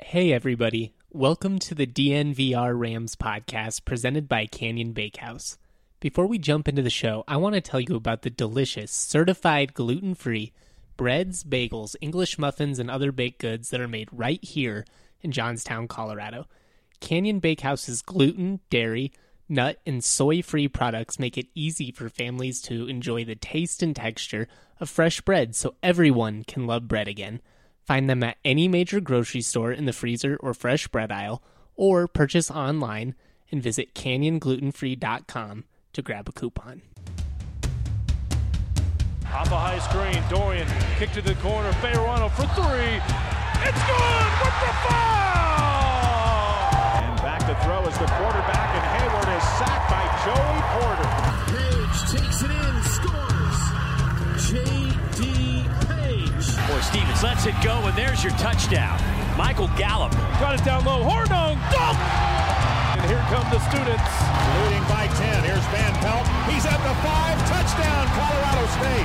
Hey everybody, welcome to the DNVR Rams podcast presented by Canyon Bakehouse. Before we jump into the show, I want to tell you about the delicious, certified gluten-free breads, bagels, English muffins, and other baked goods that are made right here in Johnstown, Colorado. Canyon Bakehouse's gluten, dairy, nut, and soy-free products make it easy for families to enjoy the taste and texture of fresh bread so everyone can love bread again. Find them at any major grocery store in the freezer or fresh bread aisle, or purchase online and visit canyonglutenfree.com to grab a coupon. Off a high screen, Dorian, kick to the corner, Fayerano for three. It's good with the foul! And back to throw is the quarterback, and Hayward is sacked by Joey Porter. Page takes it in, scores. J.D. Page. Boy, Stevens lets it go, and there's your touchdown. Michael Gallup. Got it down low, Hornung, dunk! And here come the students. Leading by 10, here's Van Pelt. He's at the 5, touchdown, Colorado State.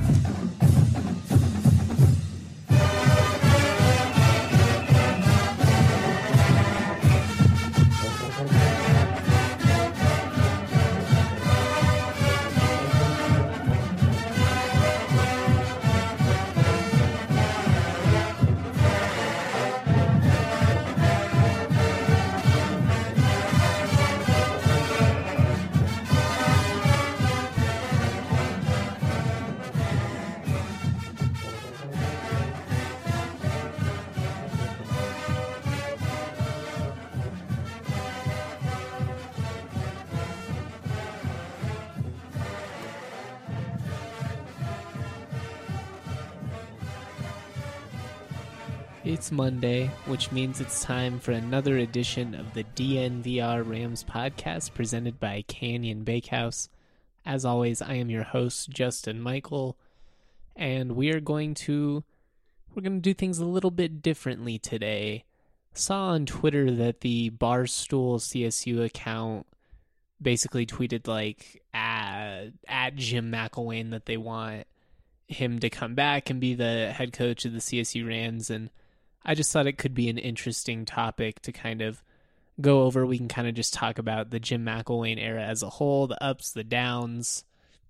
It's Monday, which means it's time for another edition of the DNVR Rams podcast presented by Canyon Bakehouse. As always, I am your host, Justin Michael, and we're going to do things a little bit differently today. Saw on Twitter that the Barstool CSU account basically tweeted at Jim McElwain that they want him to come back and be the head coach of the CSU Rams, and I just thought it could be an interesting topic to kind of go over. We can kind of just talk about the Jim McElwain era as a whole, the ups, the downs,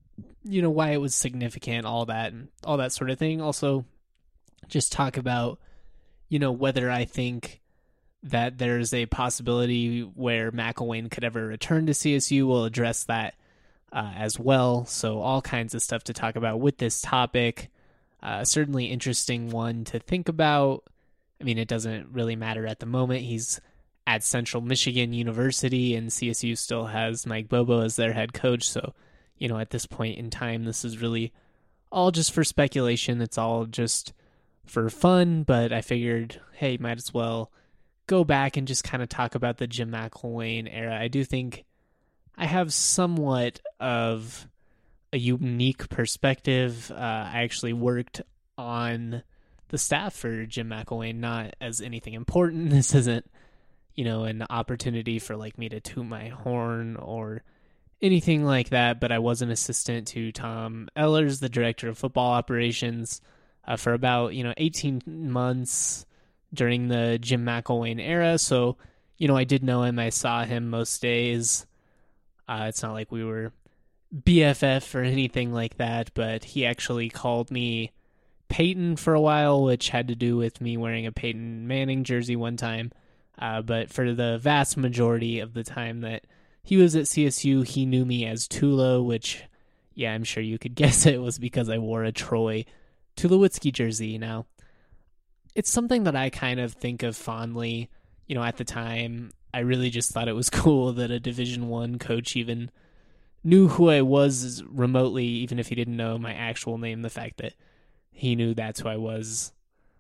why it was significant, all that sort of thing. Also, just talk about, whether I think that there's a possibility where McElwain could ever return to CSU. We'll address that as well. So all kinds of stuff to talk about with this topic. Certainly interesting one to think about. I mean, it doesn't really matter at the moment. He's at Central Michigan University, and CSU still has Mike Bobo as their head coach. So, at this point in time, this is really all just for speculation. It's all just for fun, but I figured, hey, might as well go back and just kind of talk about the Jim McElwain era. I do think I have somewhat of a unique perspective. I actually worked on the staff for Jim McElwain, not as anything important. This isn't, an opportunity for me to toot my horn or anything like that, but I was an assistant to Tom Ehlers, the director of football operations, for about, 18 months during the Jim McElwain era. So, I did know him. I saw him most days. It's not like we were BFF or anything like that, but he actually called me Peyton for a while, which had to do with me wearing a Peyton Manning jersey one time. But for the vast majority of the time that he was at CSU, he knew me as Tulo, which, yeah, I'm sure you could guess it was because I wore a Troy Tulowitzki jersey. Now, it's something that I kind of think of fondly. At the time, I really just thought it was cool that a Division I coach even knew who I was remotely, even if he didn't know my actual name. The fact that he knew that's who I was,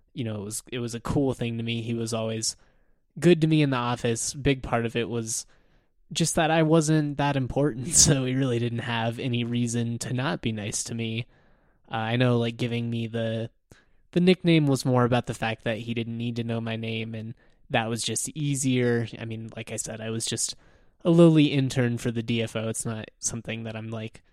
it was a cool thing to me. He was always good to me in the office. Big part of it was just that I wasn't that important, so he really didn't have any reason to not be nice to me. I know, giving me the nickname was more about the fact that he didn't need to know my name, and that was just easier. I mean, like I said, I was just a lowly intern for the DFO. It's not something that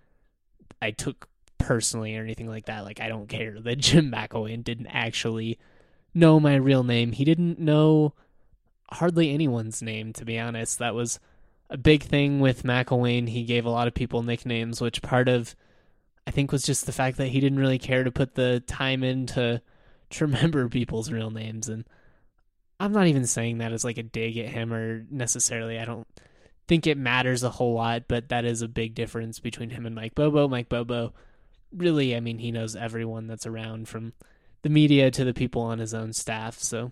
I took personally or anything like that. I don't care that Jim McElwain didn't actually know my real name. He didn't know hardly anyone's name, to be honest. That was a big thing with McElwain. He gave a lot of people nicknames, which part of, I think, was just the fact that he didn't really care to put the time in to remember people's real names. And I'm not even saying that as like a dig at him, or necessarily, I don't think it matters a whole lot, but that is a big difference between him and Mike Bobo. Mike Bobo, really, I mean, he knows everyone that's around, from the media to the people on his own staff. So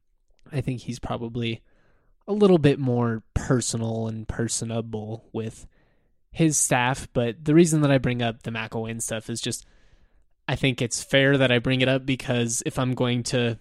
I think he's probably a little bit more personal and personable with his staff. But the reason that I bring up the McElwain stuff is just, I think it's fair that I bring it up, because if I'm going to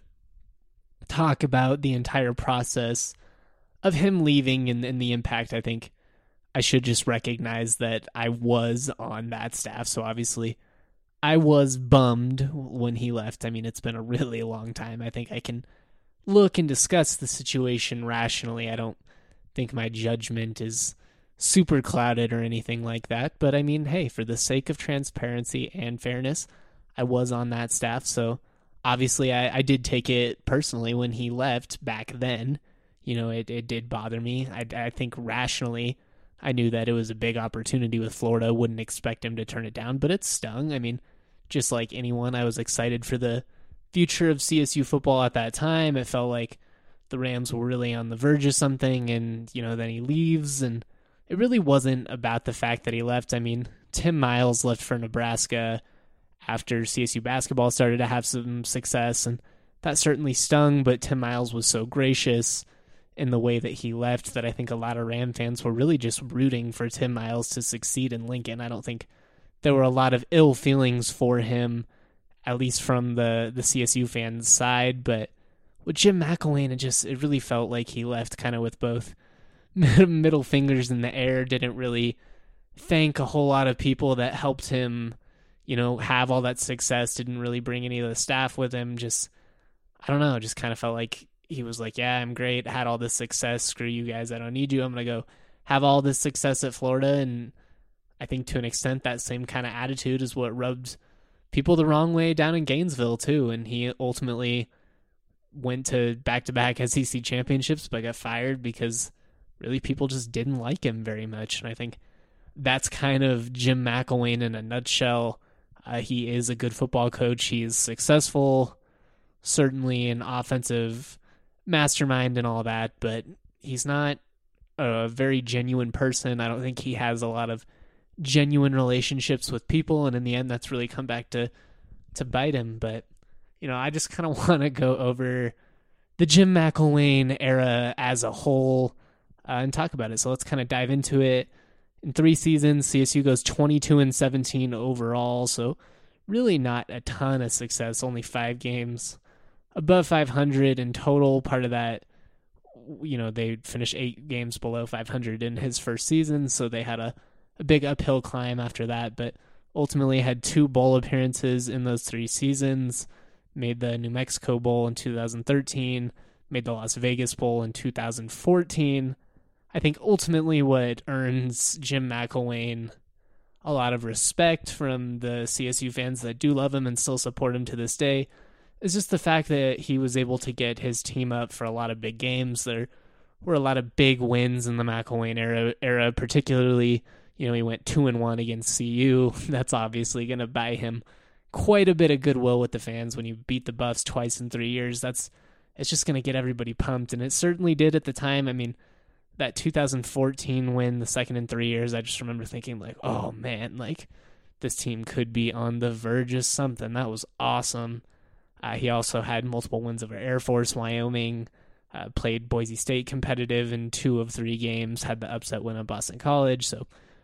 talk about the entire process of him leaving and the impact, I think I should just recognize that I was on that staff. So obviously I was bummed when he left. I mean, it's been a really long time. I think I can look and discuss the situation rationally. I don't think my judgment is super clouded or anything like that. But I mean, hey, for the sake of transparency and fairness, I was on that staff. So obviously I did take it personally when he left back then. You know, it did bother me. I think rationally, I knew that it was a big opportunity with Florida. Wouldn't expect him to turn it down, but it stung. I mean, just like anyone, I was excited for the future of CSU football at that time. It felt like the Rams were really on the verge of something, and, you know, then he leaves, and it really wasn't about the fact that he left. I mean, Tim Miles left for Nebraska after CSU basketball started to have some success, and that certainly stung, but Tim Miles was so gracious in the way that he left that I think a lot of Ram fans were really just rooting for Tim Miles to succeed in Lincoln. I don't think there were a lot of ill feelings for him, at least from the CSU fans' side. But with Jim McElwain, it really felt like he left kind of with both middle fingers in the air. Didn't really thank a whole lot of people that helped him, you know, have all that success. Didn't really bring any of the staff with him. Just, I don't know, just kind of felt like he was like, yeah, I'm great, had all this success, screw you guys, I don't need you, I'm going to go have all this success at Florida. And I think to an extent that same kind of attitude is what rubbed people the wrong way down in Gainesville too. And he ultimately went to back-to-back SEC championships, but got fired because really people just didn't like him very much. And I think that's kind of Jim McElwain in a nutshell. He is a good football coach. He is successful, certainly an offensive mastermind and all that, but he's not a very genuine person. I don't think he has a lot of genuine relationships with people, and in the end that's really come back to bite him. But, you know, I just kind of want to go over the Jim McElwain era as a whole and talk about it. So let's kind of dive into it. In 3 seasons, CSU goes 22-17 overall, so really not a ton of success, only 5 games above 500 in total. Part of that, you know, they finished 8 games below 500 in his first season, so they had a big uphill climb after that, but ultimately had 2 bowl appearances in those 3 seasons, made the New Mexico Bowl in 2013, made the Las Vegas Bowl in 2014. I think ultimately what earns Jim McElwain a lot of respect from the CSU fans that do love him and still support him to this day is just the fact that he was able to get his team up for a lot of big games. There were a lot of big wins in the McElwain era, particularly, you know, he went 2-1 against CU. That's obviously going to buy him quite a bit of goodwill with the fans. When you beat the Buffs twice in 3 years, it's just going to get everybody pumped, and it certainly did at the time. I mean, that 2014 win, the second in 3 years, I just remember thinking like, oh man, like this team could be on the verge of something. That was awesome. He also had multiple wins over Air Force, Wyoming, played Boise State competitive in 2 of 3 games, had the upset win at Boston College. So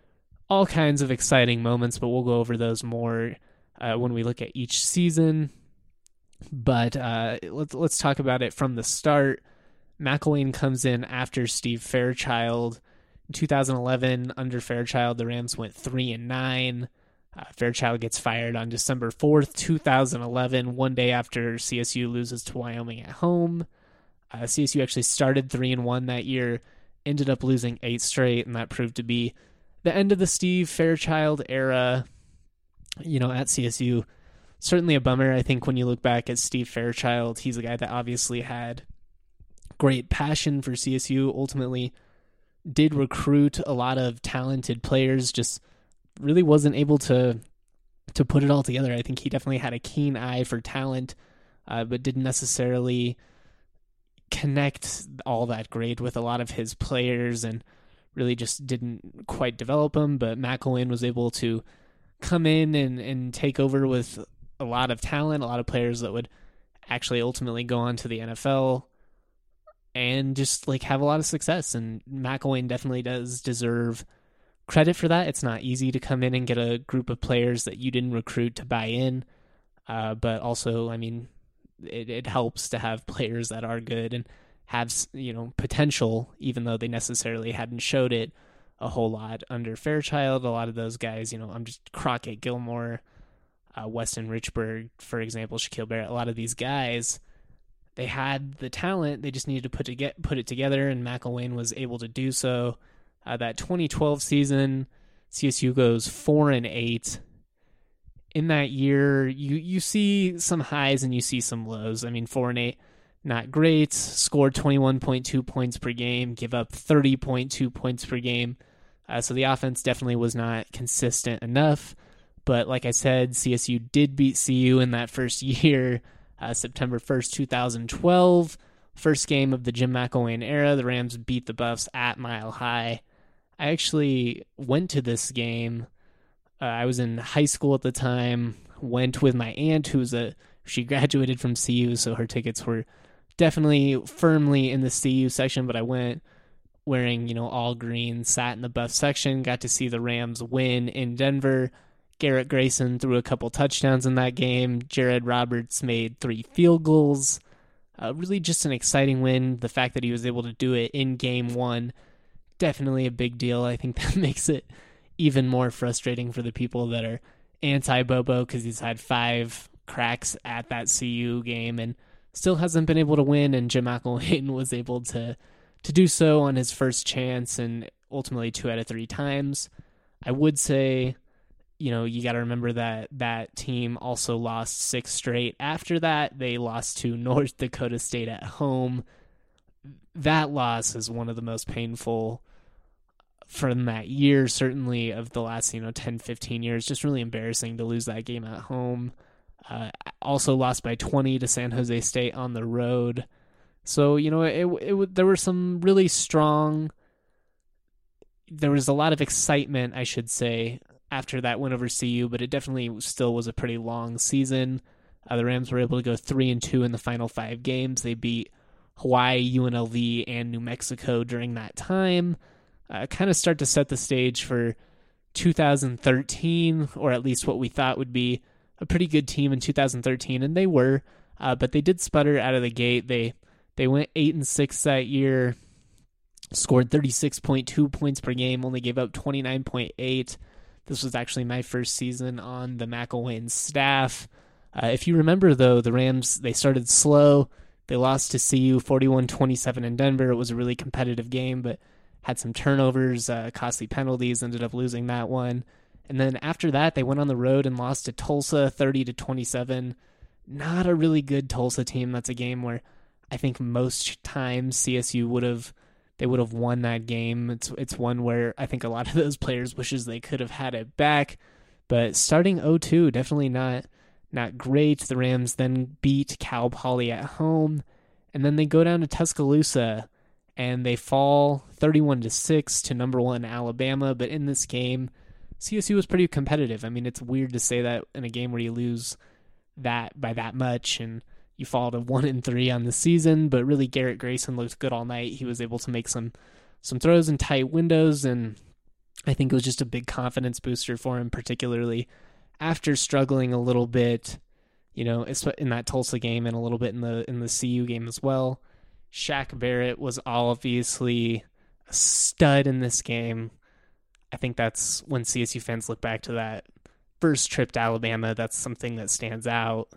all kinds of exciting moments, but we'll go over those more when we look at each season. But let's talk about it from the start. McElwain comes in after Steve Fairchild. In 2011, under Fairchild, the Rams went 3-9. Fairchild gets fired on December 4th, 2011, one day after CSU loses to Wyoming at home. CSU actually started 3-1 that year, ended up losing 8 straight, and that proved to be the end of the Steve Fairchild era, you know, at CSU. certainly a bummer. I think when you look back at Steve Fairchild, he's a guy that obviously had great passion for CSU, ultimately did recruit a lot of talented players, just really wasn't able to put it all together. I think he definitely had a keen eye for talent, but didn't necessarily connect all that great with a lot of his players and really just didn't quite develop them. But McElwain was able to come in and take over with a lot of talent, a lot of players that would actually ultimately go on to the NFL and just like have a lot of success. And McElwain definitely does deserve credit for that. It's not easy to come in and get a group of players that you didn't recruit to buy in. But also, I mean, it helps to have players that are good and have, potential, even though they necessarily hadn't showed it a whole lot under Fairchild. A lot of those guys, I'm just Crockett, Gilmore, Weston Richburg, for example, Shaquille Barrett, a lot of these guys, they had the talent, they just needed to put it together, and McElwain was able to do so. That 2012 season, CSU goes 4-8. In that year, you see some highs and you see some lows. I mean, 4-8, not great. Scored 21.2 points per game, give up 30.2 points per game. So the offense definitely was not consistent enough. But like I said, CSU did beat CU in that first year, September 1st, 2012. First game of the Jim McElwain era. The Rams beat the Buffs at Mile High. I actually went to this game. I was in high school at the time, went with my aunt she graduated from CU, so her tickets were definitely firmly in the CU section, but I went wearing, all green, sat in the Buff section, got to see the Rams win in Denver. Garrett Grayson threw a couple touchdowns in that game. Jared Roberts made 3 field goals. Really just an exciting win. The fact that he was able to do it in game 1, definitely a big deal. I think that makes it even more frustrating for the people that are anti-Bobo because he's had 5 cracks at that CU game and still hasn't been able to win, and Jim McElwain was able to do so on his first chance and ultimately 2 out of 3 times. I would say, you got to remember that team also lost 6 straight. After that, they lost to North Dakota State at home. That loss is one of the most painful from that year, certainly of the last 10, 15 years. Just really embarrassing to lose that game at home. Also lost by 20 to San Jose State on the road. So, there were some really strong, there was a lot of excitement, I should say, after that win over CU, but it definitely still was a pretty long season. The Rams were able to go 3-2 in the final 5 games. They beat Hawaii, UNLV, and New Mexico during that time. Kind of start to set the stage for 2013, or at least what we thought would be a pretty good team in 2013, and they were, but they did sputter out of the gate. They went 8-6 that year, scored 36.2 points per game, only gave up 29.8. This was actually my first season on the McElwain staff. If you remember, though, the Rams, they started slow. They lost to CU 41-27 in Denver. It was a really competitive game, but had some turnovers, costly penalties, ended up losing that one. And then after that, they went on the road and lost to Tulsa 30-27. Not a really good Tulsa team. That's a game where I think most times CSU would have won that game. It's one where I think a lot of those players wishes they could have had it back. But starting 0-2, definitely not great. The Rams then beat Cal Poly at home, and then they go down to Tuscaloosa and they fall 31-6 to number 1 Alabama. But in this game, CSU was pretty competitive. I mean, it's weird to say that in a game where you lose that by that much and you fall to 1-3 on the season, but really Garrett Grayson looked good all night. He was able to make some throws in tight windows, and I think it was just a big confidence booster for him, particularly after struggling a little bit, in that Tulsa game and a little bit in the CU game as well. Shaq Barrett was obviously a stud in this game. I think that's when CSU fans look back to that first trip to Alabama, that's something that stands out.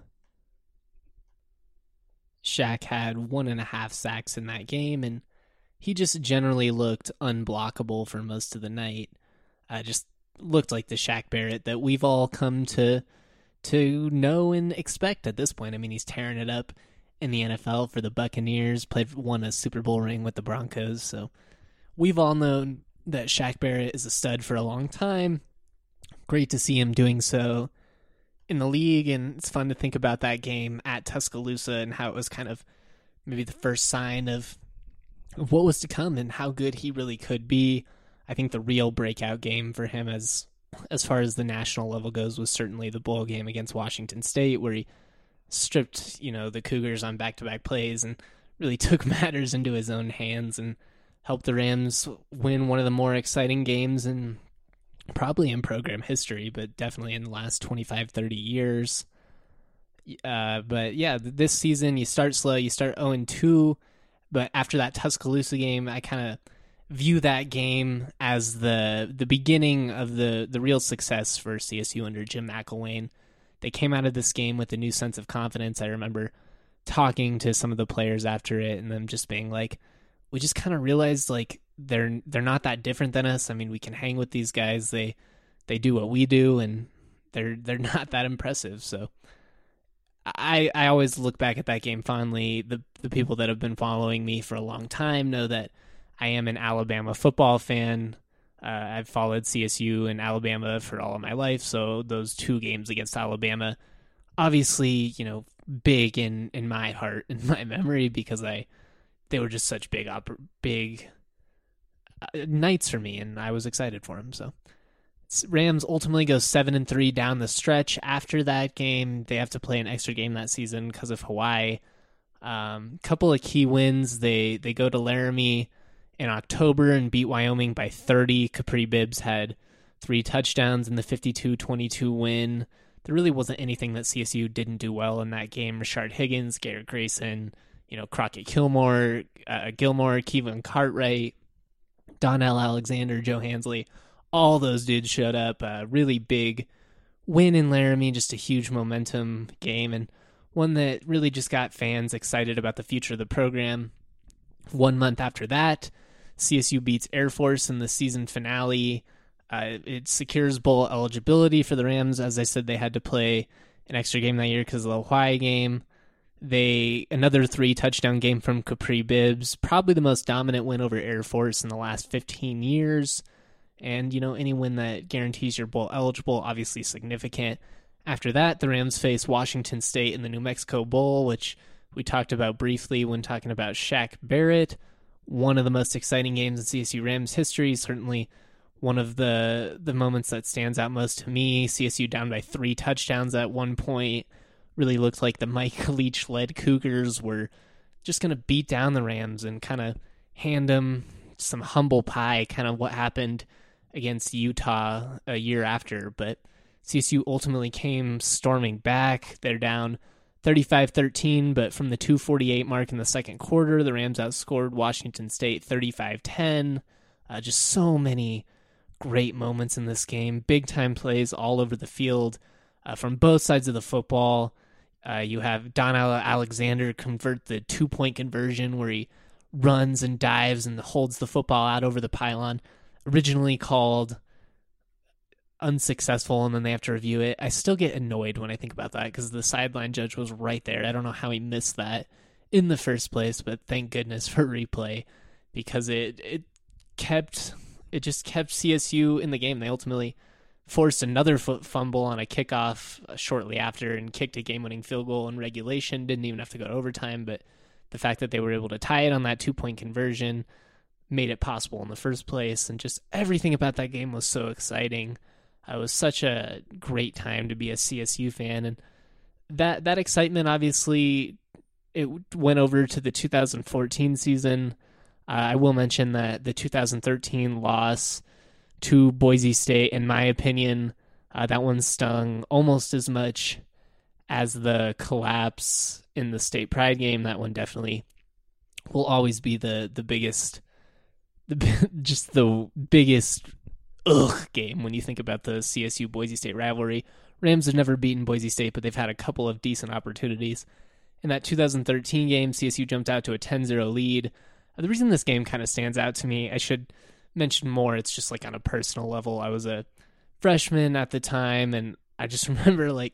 Shaq had 1.5 sacks in that game, and he just generally looked unblockable for most of the night. Just looked like the Shaq Barrett that we've all come to to know and expect at this point. I mean, he's tearing it up in the NFL for the Buccaneers, won a Super Bowl ring with the Broncos, so we've all known that Shaq Barrett is a stud for a long time. Great to see him doing so in the league, and it's fun to think about that game at Tuscaloosa and how it was kind of maybe the first sign of what was to come and how good he really could be. I think the real breakout game for him as far as the national level goes was certainly the bowl game against Washington State, where he stripped, the Cougars on back-to-back plays and really took matters into his own hands and helped the Rams win one of the more exciting games probably in program history, but definitely in the last 25, 30 years. But yeah, this season you start slow, you start 0-2, but after that Tuscaloosa game, I kind of view that game as the beginning of the real success for CSU under Jim McElwain. They came out of this game with a new sense of confidence. I remember talking to some of the players after it and them just being like, we just kind of realized like they're not that different than us. I mean, we can hang with these guys. They do what we do, and they're not that impressive. So I always look back at that game fondly. The people that have been following me for a long time know that I am an Alabama football fan. I've followed CSU and Alabama for all of my life, so those two games against Alabama, obviously, big in my heart, in my memory, because they were just such big nights for me, and I was excited for them. So Rams ultimately go 7-3 down the stretch. After that game, they have to play an extra game that season because of Hawaii. Couple of key wins. They go to Laramie in October and beat Wyoming by 30. Capri Bibbs had 3 touchdowns in the 52-22 win. There really wasn't anything that CSU didn't do well in that game. Rashard Higgins, Garrett Grayson, Crockett Gilmore, Kevin Cartwright, Donnell Alexander, Joe Hansley, all those dudes showed up. A really big win in Laramie, just a huge momentum game, and one that really just got fans excited about the future of the program. 1 month after that, CSU beats Air Force in the season finale. It secures bowl eligibility for the Rams. As I said, they had to play an extra game that year because of the Hawaii game. Another 3-touchdown game from Capri Bibbs, probably the most dominant win over Air Force in the last 15 years. And, any win that guarantees you're bowl eligible, obviously significant. After that, the Rams face Washington State in the New Mexico Bowl, which we talked about briefly when talking about Shaq Barrett. One of the most exciting games in CSU Rams history, certainly one of the moments that stands out most to me. CSU down by 3 touchdowns at one point. Really looked like the Mike Leach-led Cougars were just going to beat down the Rams and kind of hand them some humble pie, kind of what happened against Utah a year after. But CSU ultimately came storming back. They're down 35-13, but from the 2:48 mark in the second quarter, the Rams outscored Washington State 35-10. Just so many great moments in this game. Big-time plays all over the field from both sides of the football. You have Donnell Alexander convert the 2-point conversion where he runs and dives and holds the football out over the pylon. Originally called unsuccessful, and then they have to review it. I still get annoyed when I think about that because the sideline judge was right there. I don't know how he missed that in the first place, but thank goodness for replay because it just kept CSU in the game. They ultimately forced another fumble on a kickoff shortly after and kicked a game-winning field goal in regulation. Didn't even have to go to overtime, but the fact that they were able to tie it on that 2-point conversion made it possible in the first place, and just everything about that game was so exciting. It was such a great time to be a CSU fan, and that excitement, obviously, it went over to the 2014 season. I will mention that the 2013 loss to Boise State, in my opinion, that one stung almost as much as the collapse in the State Pride game. That one definitely will always be the biggest, just the biggest game when you think about the CSU Boise State rivalry. Rams have never beaten Boise State, but they've had a couple of decent opportunities. In that 2013 game, CSU jumped out to a 10-0 lead. The reason this game kind of stands out to me, I should mention more, it's just like on a personal level. I was a freshman at the time, and I just remember like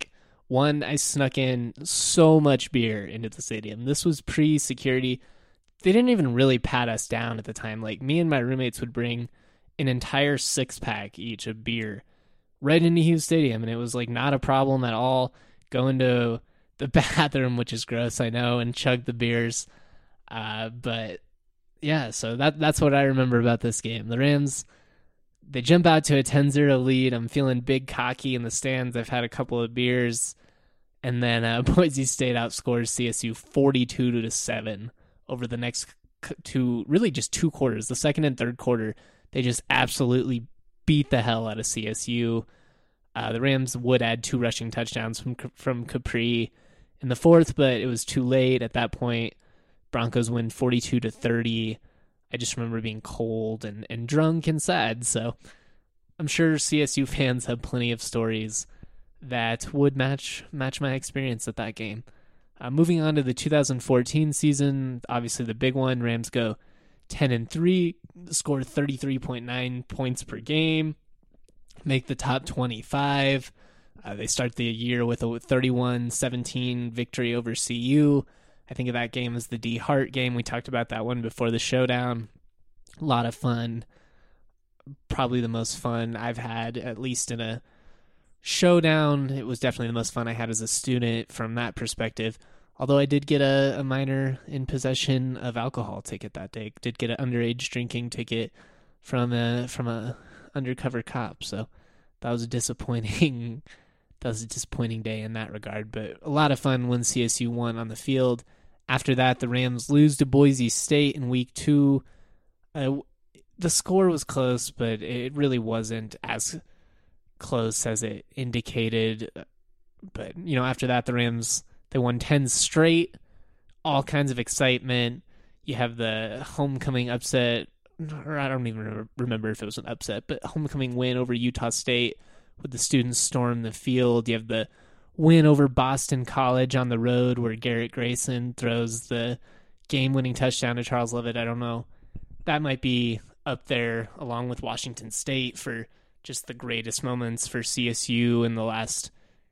One, I snuck in so much beer into the stadium. This was pre-security. They didn't even really pat us down at the time. Like, me and my roommates would bring an entire 6-pack each of beer right into Hughes Stadium, and it was like not a problem at all. Go into the bathroom, which is gross, I know, and chug the beers. But yeah, so that's what I remember about this game. The Rams, they jump out to a 10-0 lead. I'm feeling big cocky in the stands. I've had a couple of beers. And then Boise State outscores CSU 42-7 over the next just two quarters. The second and third quarter, they just absolutely beat the hell out of CSU. The Rams would add 2 rushing touchdowns from Capri in the fourth, but it was too late at that point. Broncos win 42-30. I just remember being cold and drunk and sad, so I'm sure CSU fans have plenty of stories that would match my experience at that game. Moving on to the 2014 season, obviously the big one, Rams go 10-3, score 33.9 points per game, make the top 25. They start the year with a 31-17 victory over CU. I think of that game as the D Hart game. We talked about that one before the showdown. A lot of fun. Probably the most fun I've had, at least in a showdown. It was definitely the most fun I had as a student from that perspective. Although I did get a minor in possession of alcohol ticket that day. Did get an underage drinking ticket from a undercover cop. So that was a disappointing day in that regard. But a lot of fun when CSU won on the field. After that, the Rams lose to Boise State in week 2. The score was close, but it really wasn't as close as it indicated. But, after that, the Rams, they won 10 straight, all kinds of excitement. You have the homecoming upset, or I don't even remember if it was an upset, but homecoming win over Utah State with the students storm the field. You have the win over Boston College on the road where Garrett Grayson throws the game-winning touchdown to Charles Leavitt. I don't know. That might be up there along with Washington State for just the greatest moments for CSU in the last,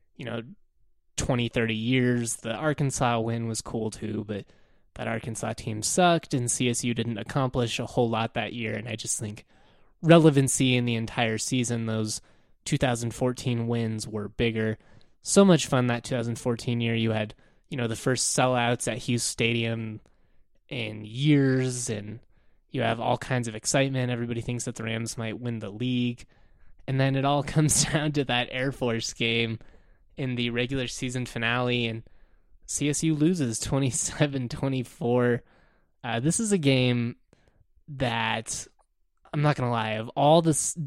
20, 30 years. The Arkansas win was cool too, but that Arkansas team sucked and CSU didn't accomplish a whole lot that year. And I just think relevancy in the entire season, those 2014 wins were bigger. So much fun that 2014 year. You had, the first sellouts at Hughes Stadium in years, and you have all kinds of excitement. Everybody thinks that the Rams might win the league. And then it all comes down to that Air Force game in the regular season finale, and CSU loses 27-24. This is a game that, I'm not going to lie, of all the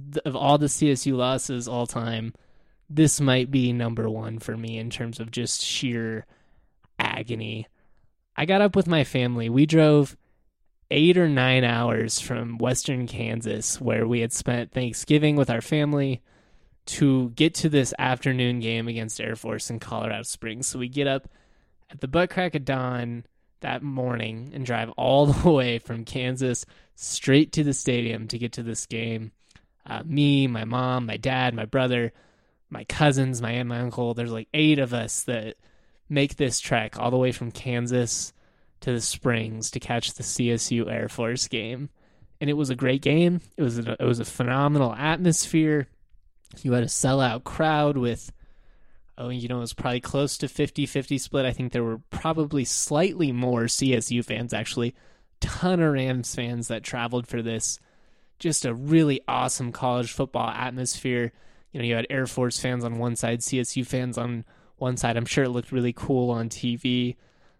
CSU losses all time, this might be number one for me in terms of just sheer agony. I got up with my family. We drove 8 or 9 hours from western Kansas, where we had spent Thanksgiving with our family, to get to this afternoon game against Air Force in Colorado Springs. So we get up at the butt crack of dawn that morning and drive all the way from Kansas straight to the stadium to get to this game. Me, my mom, my dad, my brother, my cousins, my aunt, my uncle. There's like 8 of us that make this trek all the way from Kansas to the Springs to catch the CSU Air Force game. And it was a great game. It was a phenomenal atmosphere. You had a sellout crowd with, it was probably close to 50-50 split. I think there were probably slightly more CSU fans, actually. Ton of Rams fans that traveled for this. Just a really awesome college football atmosphere. You had Air Force fans on one side, CSU fans on one side. I'm sure it looked really cool on TV.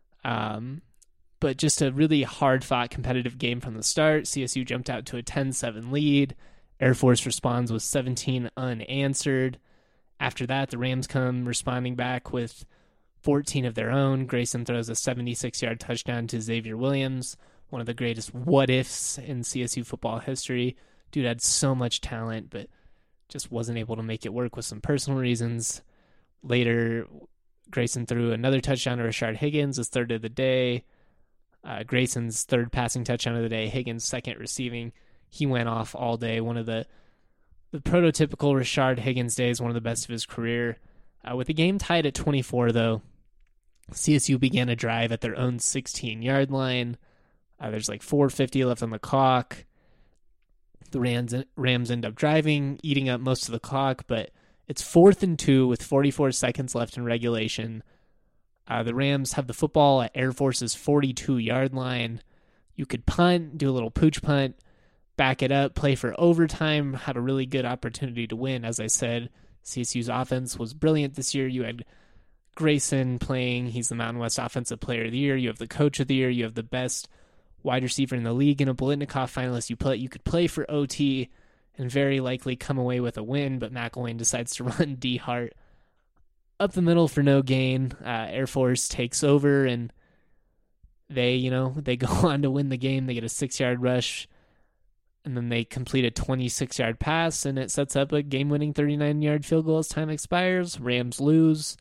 But just a really hard-fought competitive game from the start. CSU jumped out to a 10-7 lead. Air Force responds with 17 unanswered. After that, the Rams come responding back with 14 of their own. Grayson throws a 76-yard touchdown to Xavier Williams, one of the greatest what-ifs in CSU football history. Dude had so much talent, but just wasn't able to make it work with some personal reasons. Later, Grayson threw another touchdown to Rashard Higgins, his third of the day. Grayson's third passing touchdown of the day, Higgins' second receiving. He went off all day. One of the prototypical Rashard Higgins days, one of the best of his career. With the game tied at 24, though, CSU began a drive at their own 16-yard line. There's like 4:50 left on the clock. The Rams end up driving, eating up most of the clock, but it's 4th and 2 with 44 seconds left in regulation. The Rams have the football at Air Force's 42-yard line. You could punt, do a little pooch punt, back it up, play for overtime, have a really good opportunity to win. As I said, CSU's offense was brilliant this year. You had Grayson playing. He's the Mountain West Offensive Player of the Year. You have the Coach of the Year. You have the best wide receiver in the league and a Biletnikoff finalist. You could play for OT and very likely come away with a win, but McElwain decides to run D Hart up the middle for no gain. Air Force takes over, and they go on to win the game. They get a 6-yard rush, and then they complete a 26-yard pass, and it sets up a game-winning 39-yard field goal as time expires. Rams lose.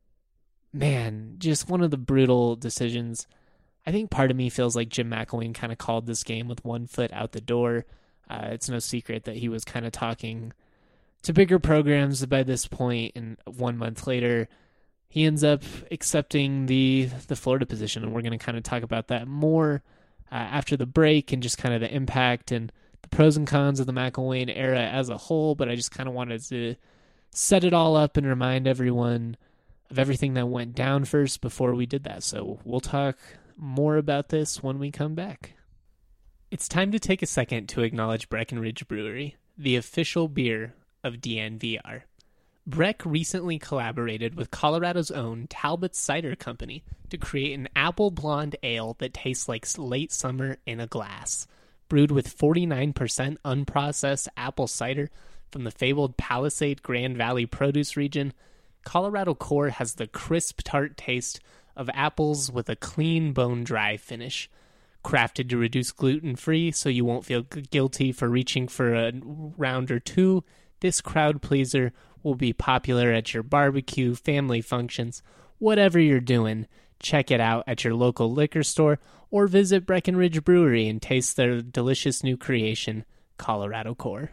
Man, just one of the brutal decisions. I think part of me feels like Jim McElwain kind of called this game with one foot out the door. It's no secret that he was kind of talking to bigger programs by this point, and 1 month later, he ends up accepting the Florida position, and we're going to kind of talk about that more after the break and just kind of the impact and the pros and cons of the McElwain era as a whole, but I just kind of wanted to set it all up and remind everyone of everything that went down first before we did that. So we'll talk more about this when we come back. It's time to take a second to acknowledge Breckenridge Brewery, the official beer of DNVR. Breck recently collaborated with Colorado's own Talbot Cider Company to create an apple blonde ale that tastes like late summer in a glass. Brewed with 49% unprocessed apple cider from the fabled Palisade Grand Valley produce region, Colorado Core has the crisp, tart taste of apples with a clean, bone-dry finish. Crafted to reduce gluten-free so you won't feel guilty for reaching for a round or two, this crowd pleaser will be popular at your barbecue, family functions, whatever you're doing. Check it out at your local liquor store or visit Breckenridge Brewery and taste their delicious new creation, Colorado Core.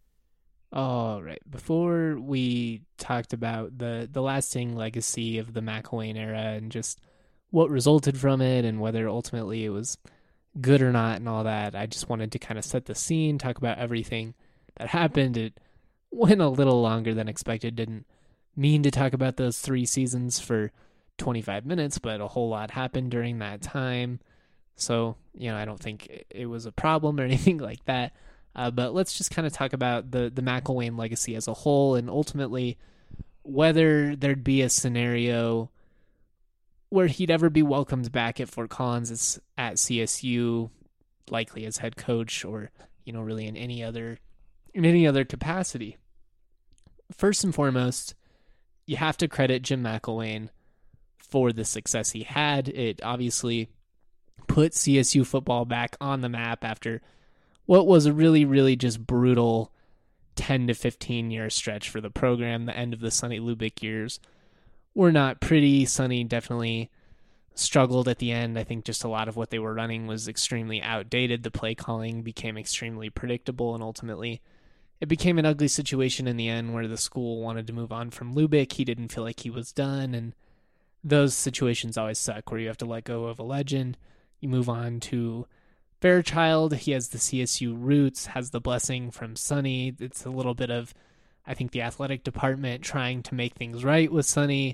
All right, before we talked about the lasting legacy of the McElwain era and just what resulted from it and whether ultimately it was good or not and all that, I just wanted to kind of set the scene, talk about everything that happened. It went a little longer than expected. Didn't mean to talk about those 3 seasons for 25 minutes, but a whole lot happened during that time. So, I don't think it was a problem or anything like that. But let's just kind of talk about the McElwain legacy as a whole and ultimately whether there'd be a scenario where he'd ever be welcomed back at Fort Collins at CSU, likely as head coach or, really in any other capacity. First and foremost, you have to credit Jim McElwain for the success he had. It obviously put CSU football back on the map after what was a really, really just brutal 10 to 15 year stretch for the program. The end of the Sonny Lubick years were not pretty. Sonny definitely struggled at the end. I think just a lot of what they were running was extremely outdated. The play calling became extremely predictable, and ultimately it became an ugly situation in the end where the school wanted to move on from Lubick. He didn't feel like he was done, and those situations always suck where you have to let go of a legend. You move on to Fairchild. He has the CSU roots, has the blessing from Sonny. It's a little bit of, I think, the athletic department trying to make things right with Sonny.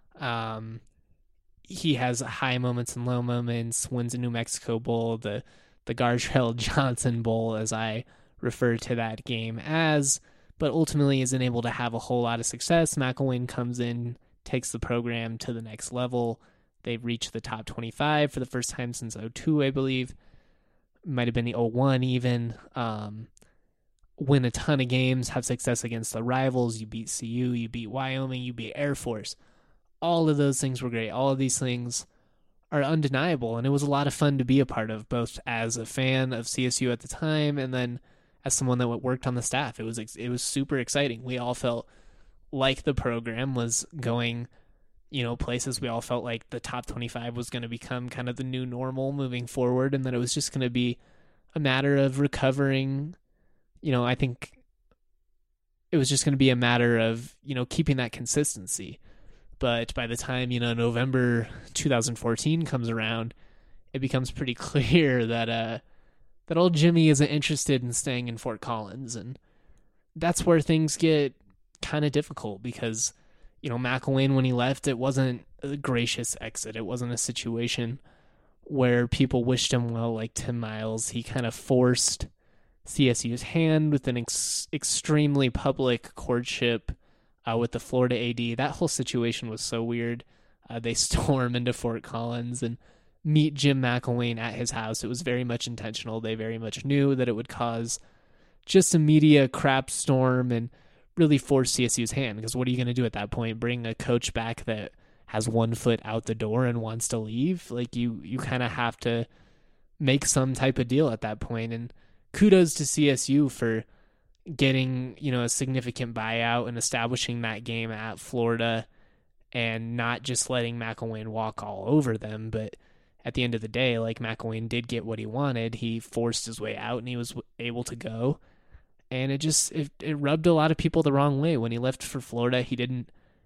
He has high moments and low moments, wins a New Mexico Bowl, the Gartrell Johnson Bowl, as I refer to that game as, but ultimately isn't able to have a whole lot of success. McElwain comes in, takes the program to the next level. They've reached the top 25 for the first time since 2002, I believe. Might have been the 2001 even. Win a ton of games, have success against the rivals. You beat CU, you beat Wyoming, you beat Air Force. All of those things were great. All of these things are undeniable, and it was a lot of fun to be a part of, both as a fan of CSU at the time and then as someone that worked on the staff. It was super exciting. We all felt like the program was going, places. We all felt like the top 25 was going to become kind of the new normal moving forward, and that it was just going to be a matter of recovering. I think it was just going to be a matter of, keeping that consistency. But by the time, November 2014 comes around, it becomes pretty clear that old Jimmy isn't interested in staying in Fort Collins. And that's where things get kind of difficult because, McElwain, when he left, it wasn't a gracious exit. It wasn't a situation where people wished him well like Tim Miles. He kind of forced CSU's hand with an extremely public courtship with the Florida AD. That whole situation was so weird. They storm into Fort Collins and meet Jim McElwain at his house. It was very much intentional. They very much knew that it would cause just a media crap storm and really force CSU's hand, because what are you going to do at that point? Bring a coach back that has 1 foot out the door and wants to leave? Like, you kind of have to make some type of deal at that point. And kudos to CSU for getting, a significant buyout and establishing that game at Florida and not just letting McElwain walk all over them. But at the end of the day, like, McElwain did get what he wanted. He forced his way out and he was able to go. And it rubbed a lot of people the wrong way. When he left for Florida, he didn't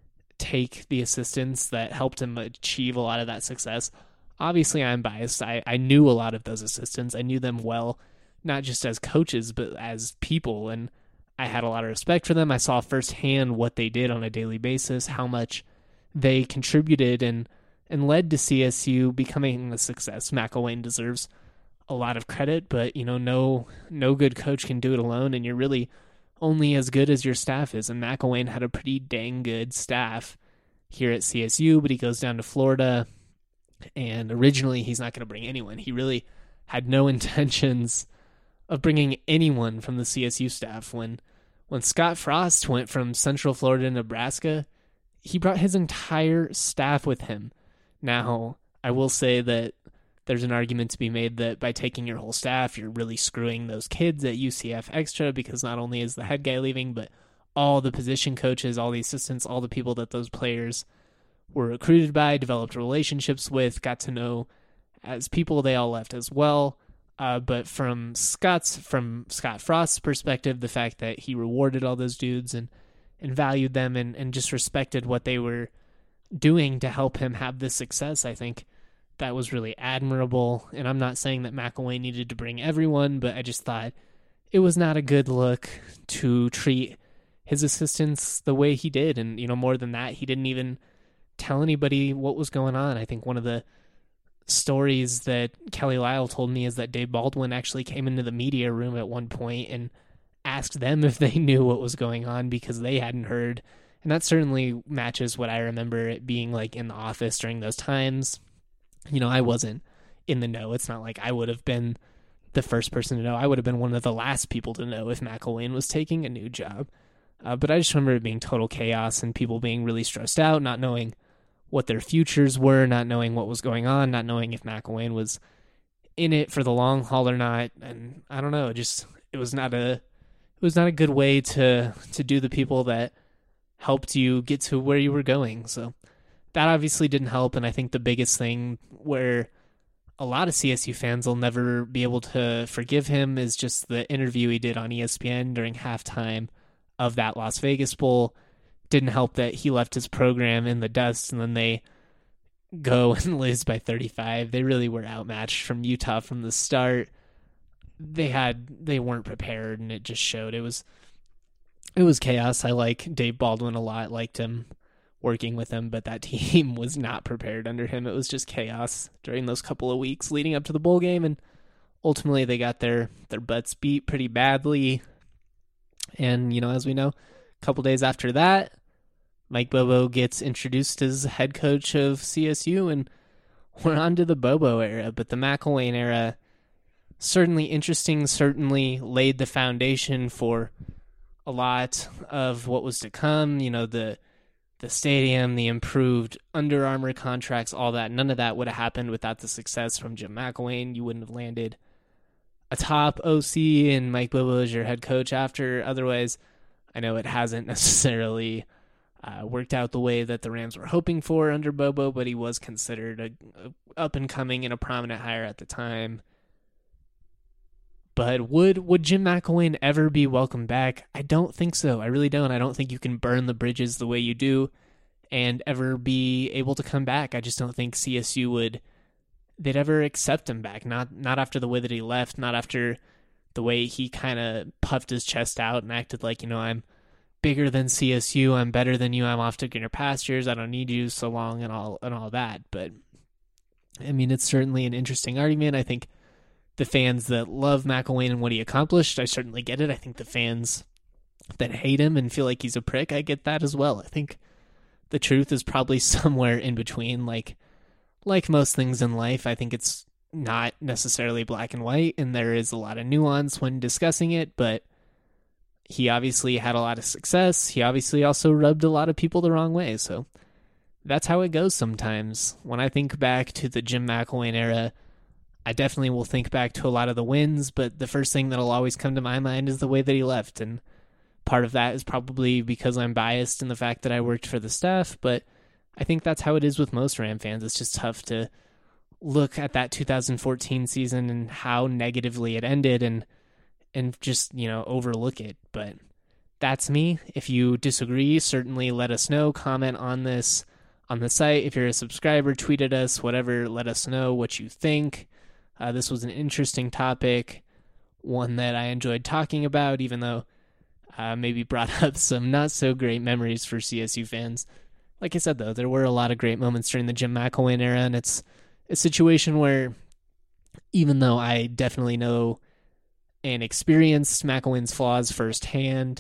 take the assistants that helped him achieve a lot of that success. Obviously, I'm biased. I knew a lot of those assistants. I knew them well, not just as coaches, but as people. And I had a lot of respect for them. I saw firsthand what they did on a daily basis, how much they contributed and led to CSU becoming a success. McElwain deserves a lot of credit, but no good coach can do it alone, and you're really only as good as your staff is. And McElwain had a pretty dang good staff here at CSU, but he goes down to Florida, and originally he's not going to bring anyone. He really had no intentions of bringing anyone from the CSU staff. When Scott Frost went from Central Florida to Nebraska, he brought his entire staff with him. Now, I will say that there's an argument to be made that by taking your whole staff, you're really screwing those kids at UCF extra, because not only is the head guy leaving, but all the position coaches, all the assistants, all the people that those players were recruited by, developed relationships with, got to know as people, they all left as well. But from Scott Frost's perspective, the fact that he rewarded all those dudes and valued them and just respected what they were doing to help him have this success, I think that was really admirable. And I'm not saying that McElwain needed to bring everyone, but I just thought it was not a good look to treat his assistants the way he did. And, more than that, he didn't even tell anybody what was going on. I think one of the stories that Kelly Lyle told me is that Dave Baldwin actually came into the media room at one point and asked them if they knew what was going on because they hadn't heard. And that certainly matches what I remember it being like in the office during those times. I wasn't in the know. It's not like I would have been the first person to know. I would have been one of the last people to know if McElwain was taking a new job. But I just remember it being total chaos and people being really stressed out, not knowing what their futures were, not knowing what was going on, not knowing if McElwain was in it for the long haul or not. And I don't know, it was not a good way to do the people that helped you get to where you were going. So that obviously didn't help. And I think the biggest thing where a lot of CSU fans will never be able to forgive him is just the interview he did on ESPN during halftime of that Las Vegas Bowl. Didn't help that he left his program in the dust and then they go and lose by 35. They really were outmatched from Utah from the start. They weren't prepared and it just showed. It was chaos. I like Dave Baldwin a lot, liked him, working with him, but that team was not prepared under him. It was just chaos during those couple of weeks leading up to the bowl game, and ultimately they got their butts beat pretty badly. And, as we know, a couple days after that, Mike Bobo gets introduced as head coach of CSU, and we're on to the Bobo era. But the McElwain era, certainly interesting, certainly laid the foundation for a lot of what was to come. The stadium, the improved Under Armour contracts, all that. None of that would have happened without the success from Jim McElwain. You wouldn't have landed a top OC and Mike Bobo as your head coach after. Otherwise, I know it hasn't necessarily worked out the way that the Rams were hoping for under Bobo, but he was considered a up-and-coming and a prominent hire at the time. But would Jim McElwain ever be welcomed back? I don't think so. I really don't. I don't think you can burn the bridges the way you do and ever be able to come back. I just don't think CSU they'd ever accept him back. Not after the way that he left, not after the way he kind of puffed his chest out and acted like, I'm bigger than CSU, I'm better than you, I'm off to greener pastures, I don't need you so long and all that. But I mean, it's certainly an interesting argument. I think the fans that love McElwain and what he accomplished, I certainly get it. I think the fans that hate him and feel like he's a prick, I get that as well. I think the truth is probably somewhere in between. Like most things in life, I think it's not necessarily black and white, and there is a lot of nuance when discussing it, but he obviously had a lot of success. He obviously also rubbed a lot of people the wrong way, so that's how it goes sometimes. When I think back to the Jim McElwain era, I definitely will think back to a lot of the wins, but the first thing that'll always come to my mind is the way that he left, and part of that is probably because I'm biased in the fact that I worked for the staff, but I think that's how it is with most Ram fans. It's just tough to look at that 2014 season and how negatively it ended and just, overlook it. But that's me. If you disagree, certainly let us know. Comment on this on the site. If you're a subscriber, tweet at us, whatever. Let us know what you think. This was an interesting topic, one that I enjoyed talking about, even though maybe brought up some not so great memories for CSU fans. Like I said, though, there were a lot of great moments during the Jim McElwain era, and it's a situation where even though I definitely know and experienced McElwain's flaws firsthand,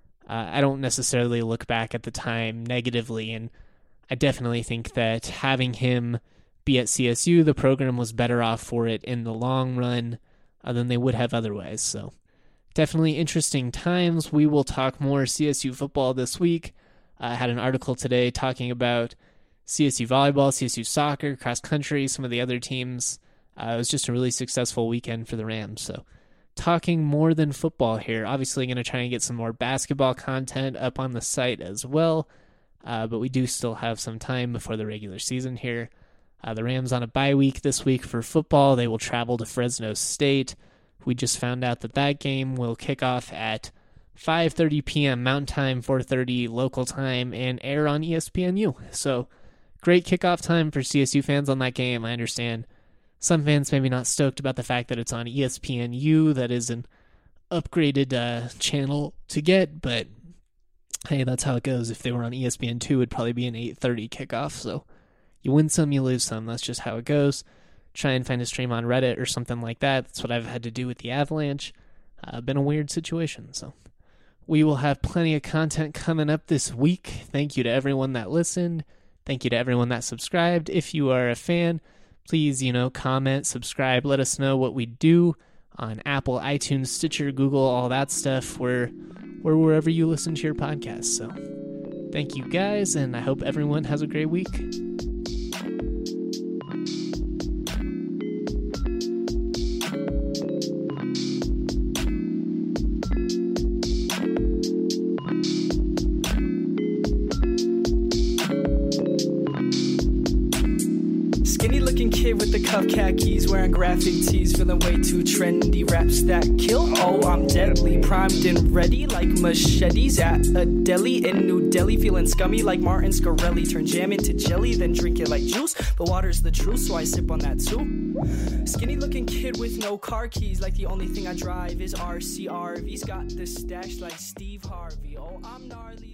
I don't necessarily look back at the time negatively, and I definitely think that having him be at CSU, the program was better off for it in the long run than they would have otherwise. So definitely interesting times. We will talk more CSU football this week. I had an article today talking about CSU volleyball, CSU soccer, cross country, some of the other teams. It was just a really successful weekend for the Rams. So talking more than football here. Obviously going to try and get some more basketball content up on the site as well. But we do still have some time before the regular season here. The Rams on a bye week this week for football. They will travel to Fresno State. We just found out that game will kick off at 5:30 p.m. Mountain Time, 4:30 local time, and air on ESPNU. So great kickoff time for CSU fans on that game. I understand some fans maybe not stoked about the fact that it's on ESPNU. That is an upgraded channel to get, but hey, that's how it goes. If they were on ESPN2, it'd probably be an 8:30 kickoff. So you win some, you lose some. That's just how it goes. Try and find a stream on Reddit or something like that. That's what I've had to do with the Avalanche. Been a weird situation. So we will have plenty of content coming up this week. Thank you to everyone that listened. Thank you to everyone that subscribed. If you are a fan, please, comment, subscribe. Let us know what we do on Apple, iTunes, Stitcher, Google, all that stuff. We're wherever you listen to your podcast. So thank you guys, and I hope everyone has a great week. Kid with the cuff khakis, wearing graphic tees, feeling way too trendy. Raps that kill, oh I'm deadly, primed and ready like machetes at a deli in New Delhi. Feeling scummy like Martin Scarelli, turn jam into jelly, then drink it like juice. But water's the truth, so I sip on that too. Skinny looking kid with no car keys, like the only thing I drive is RCRV's got the stash like Steve Harvey. Oh I'm gnarly.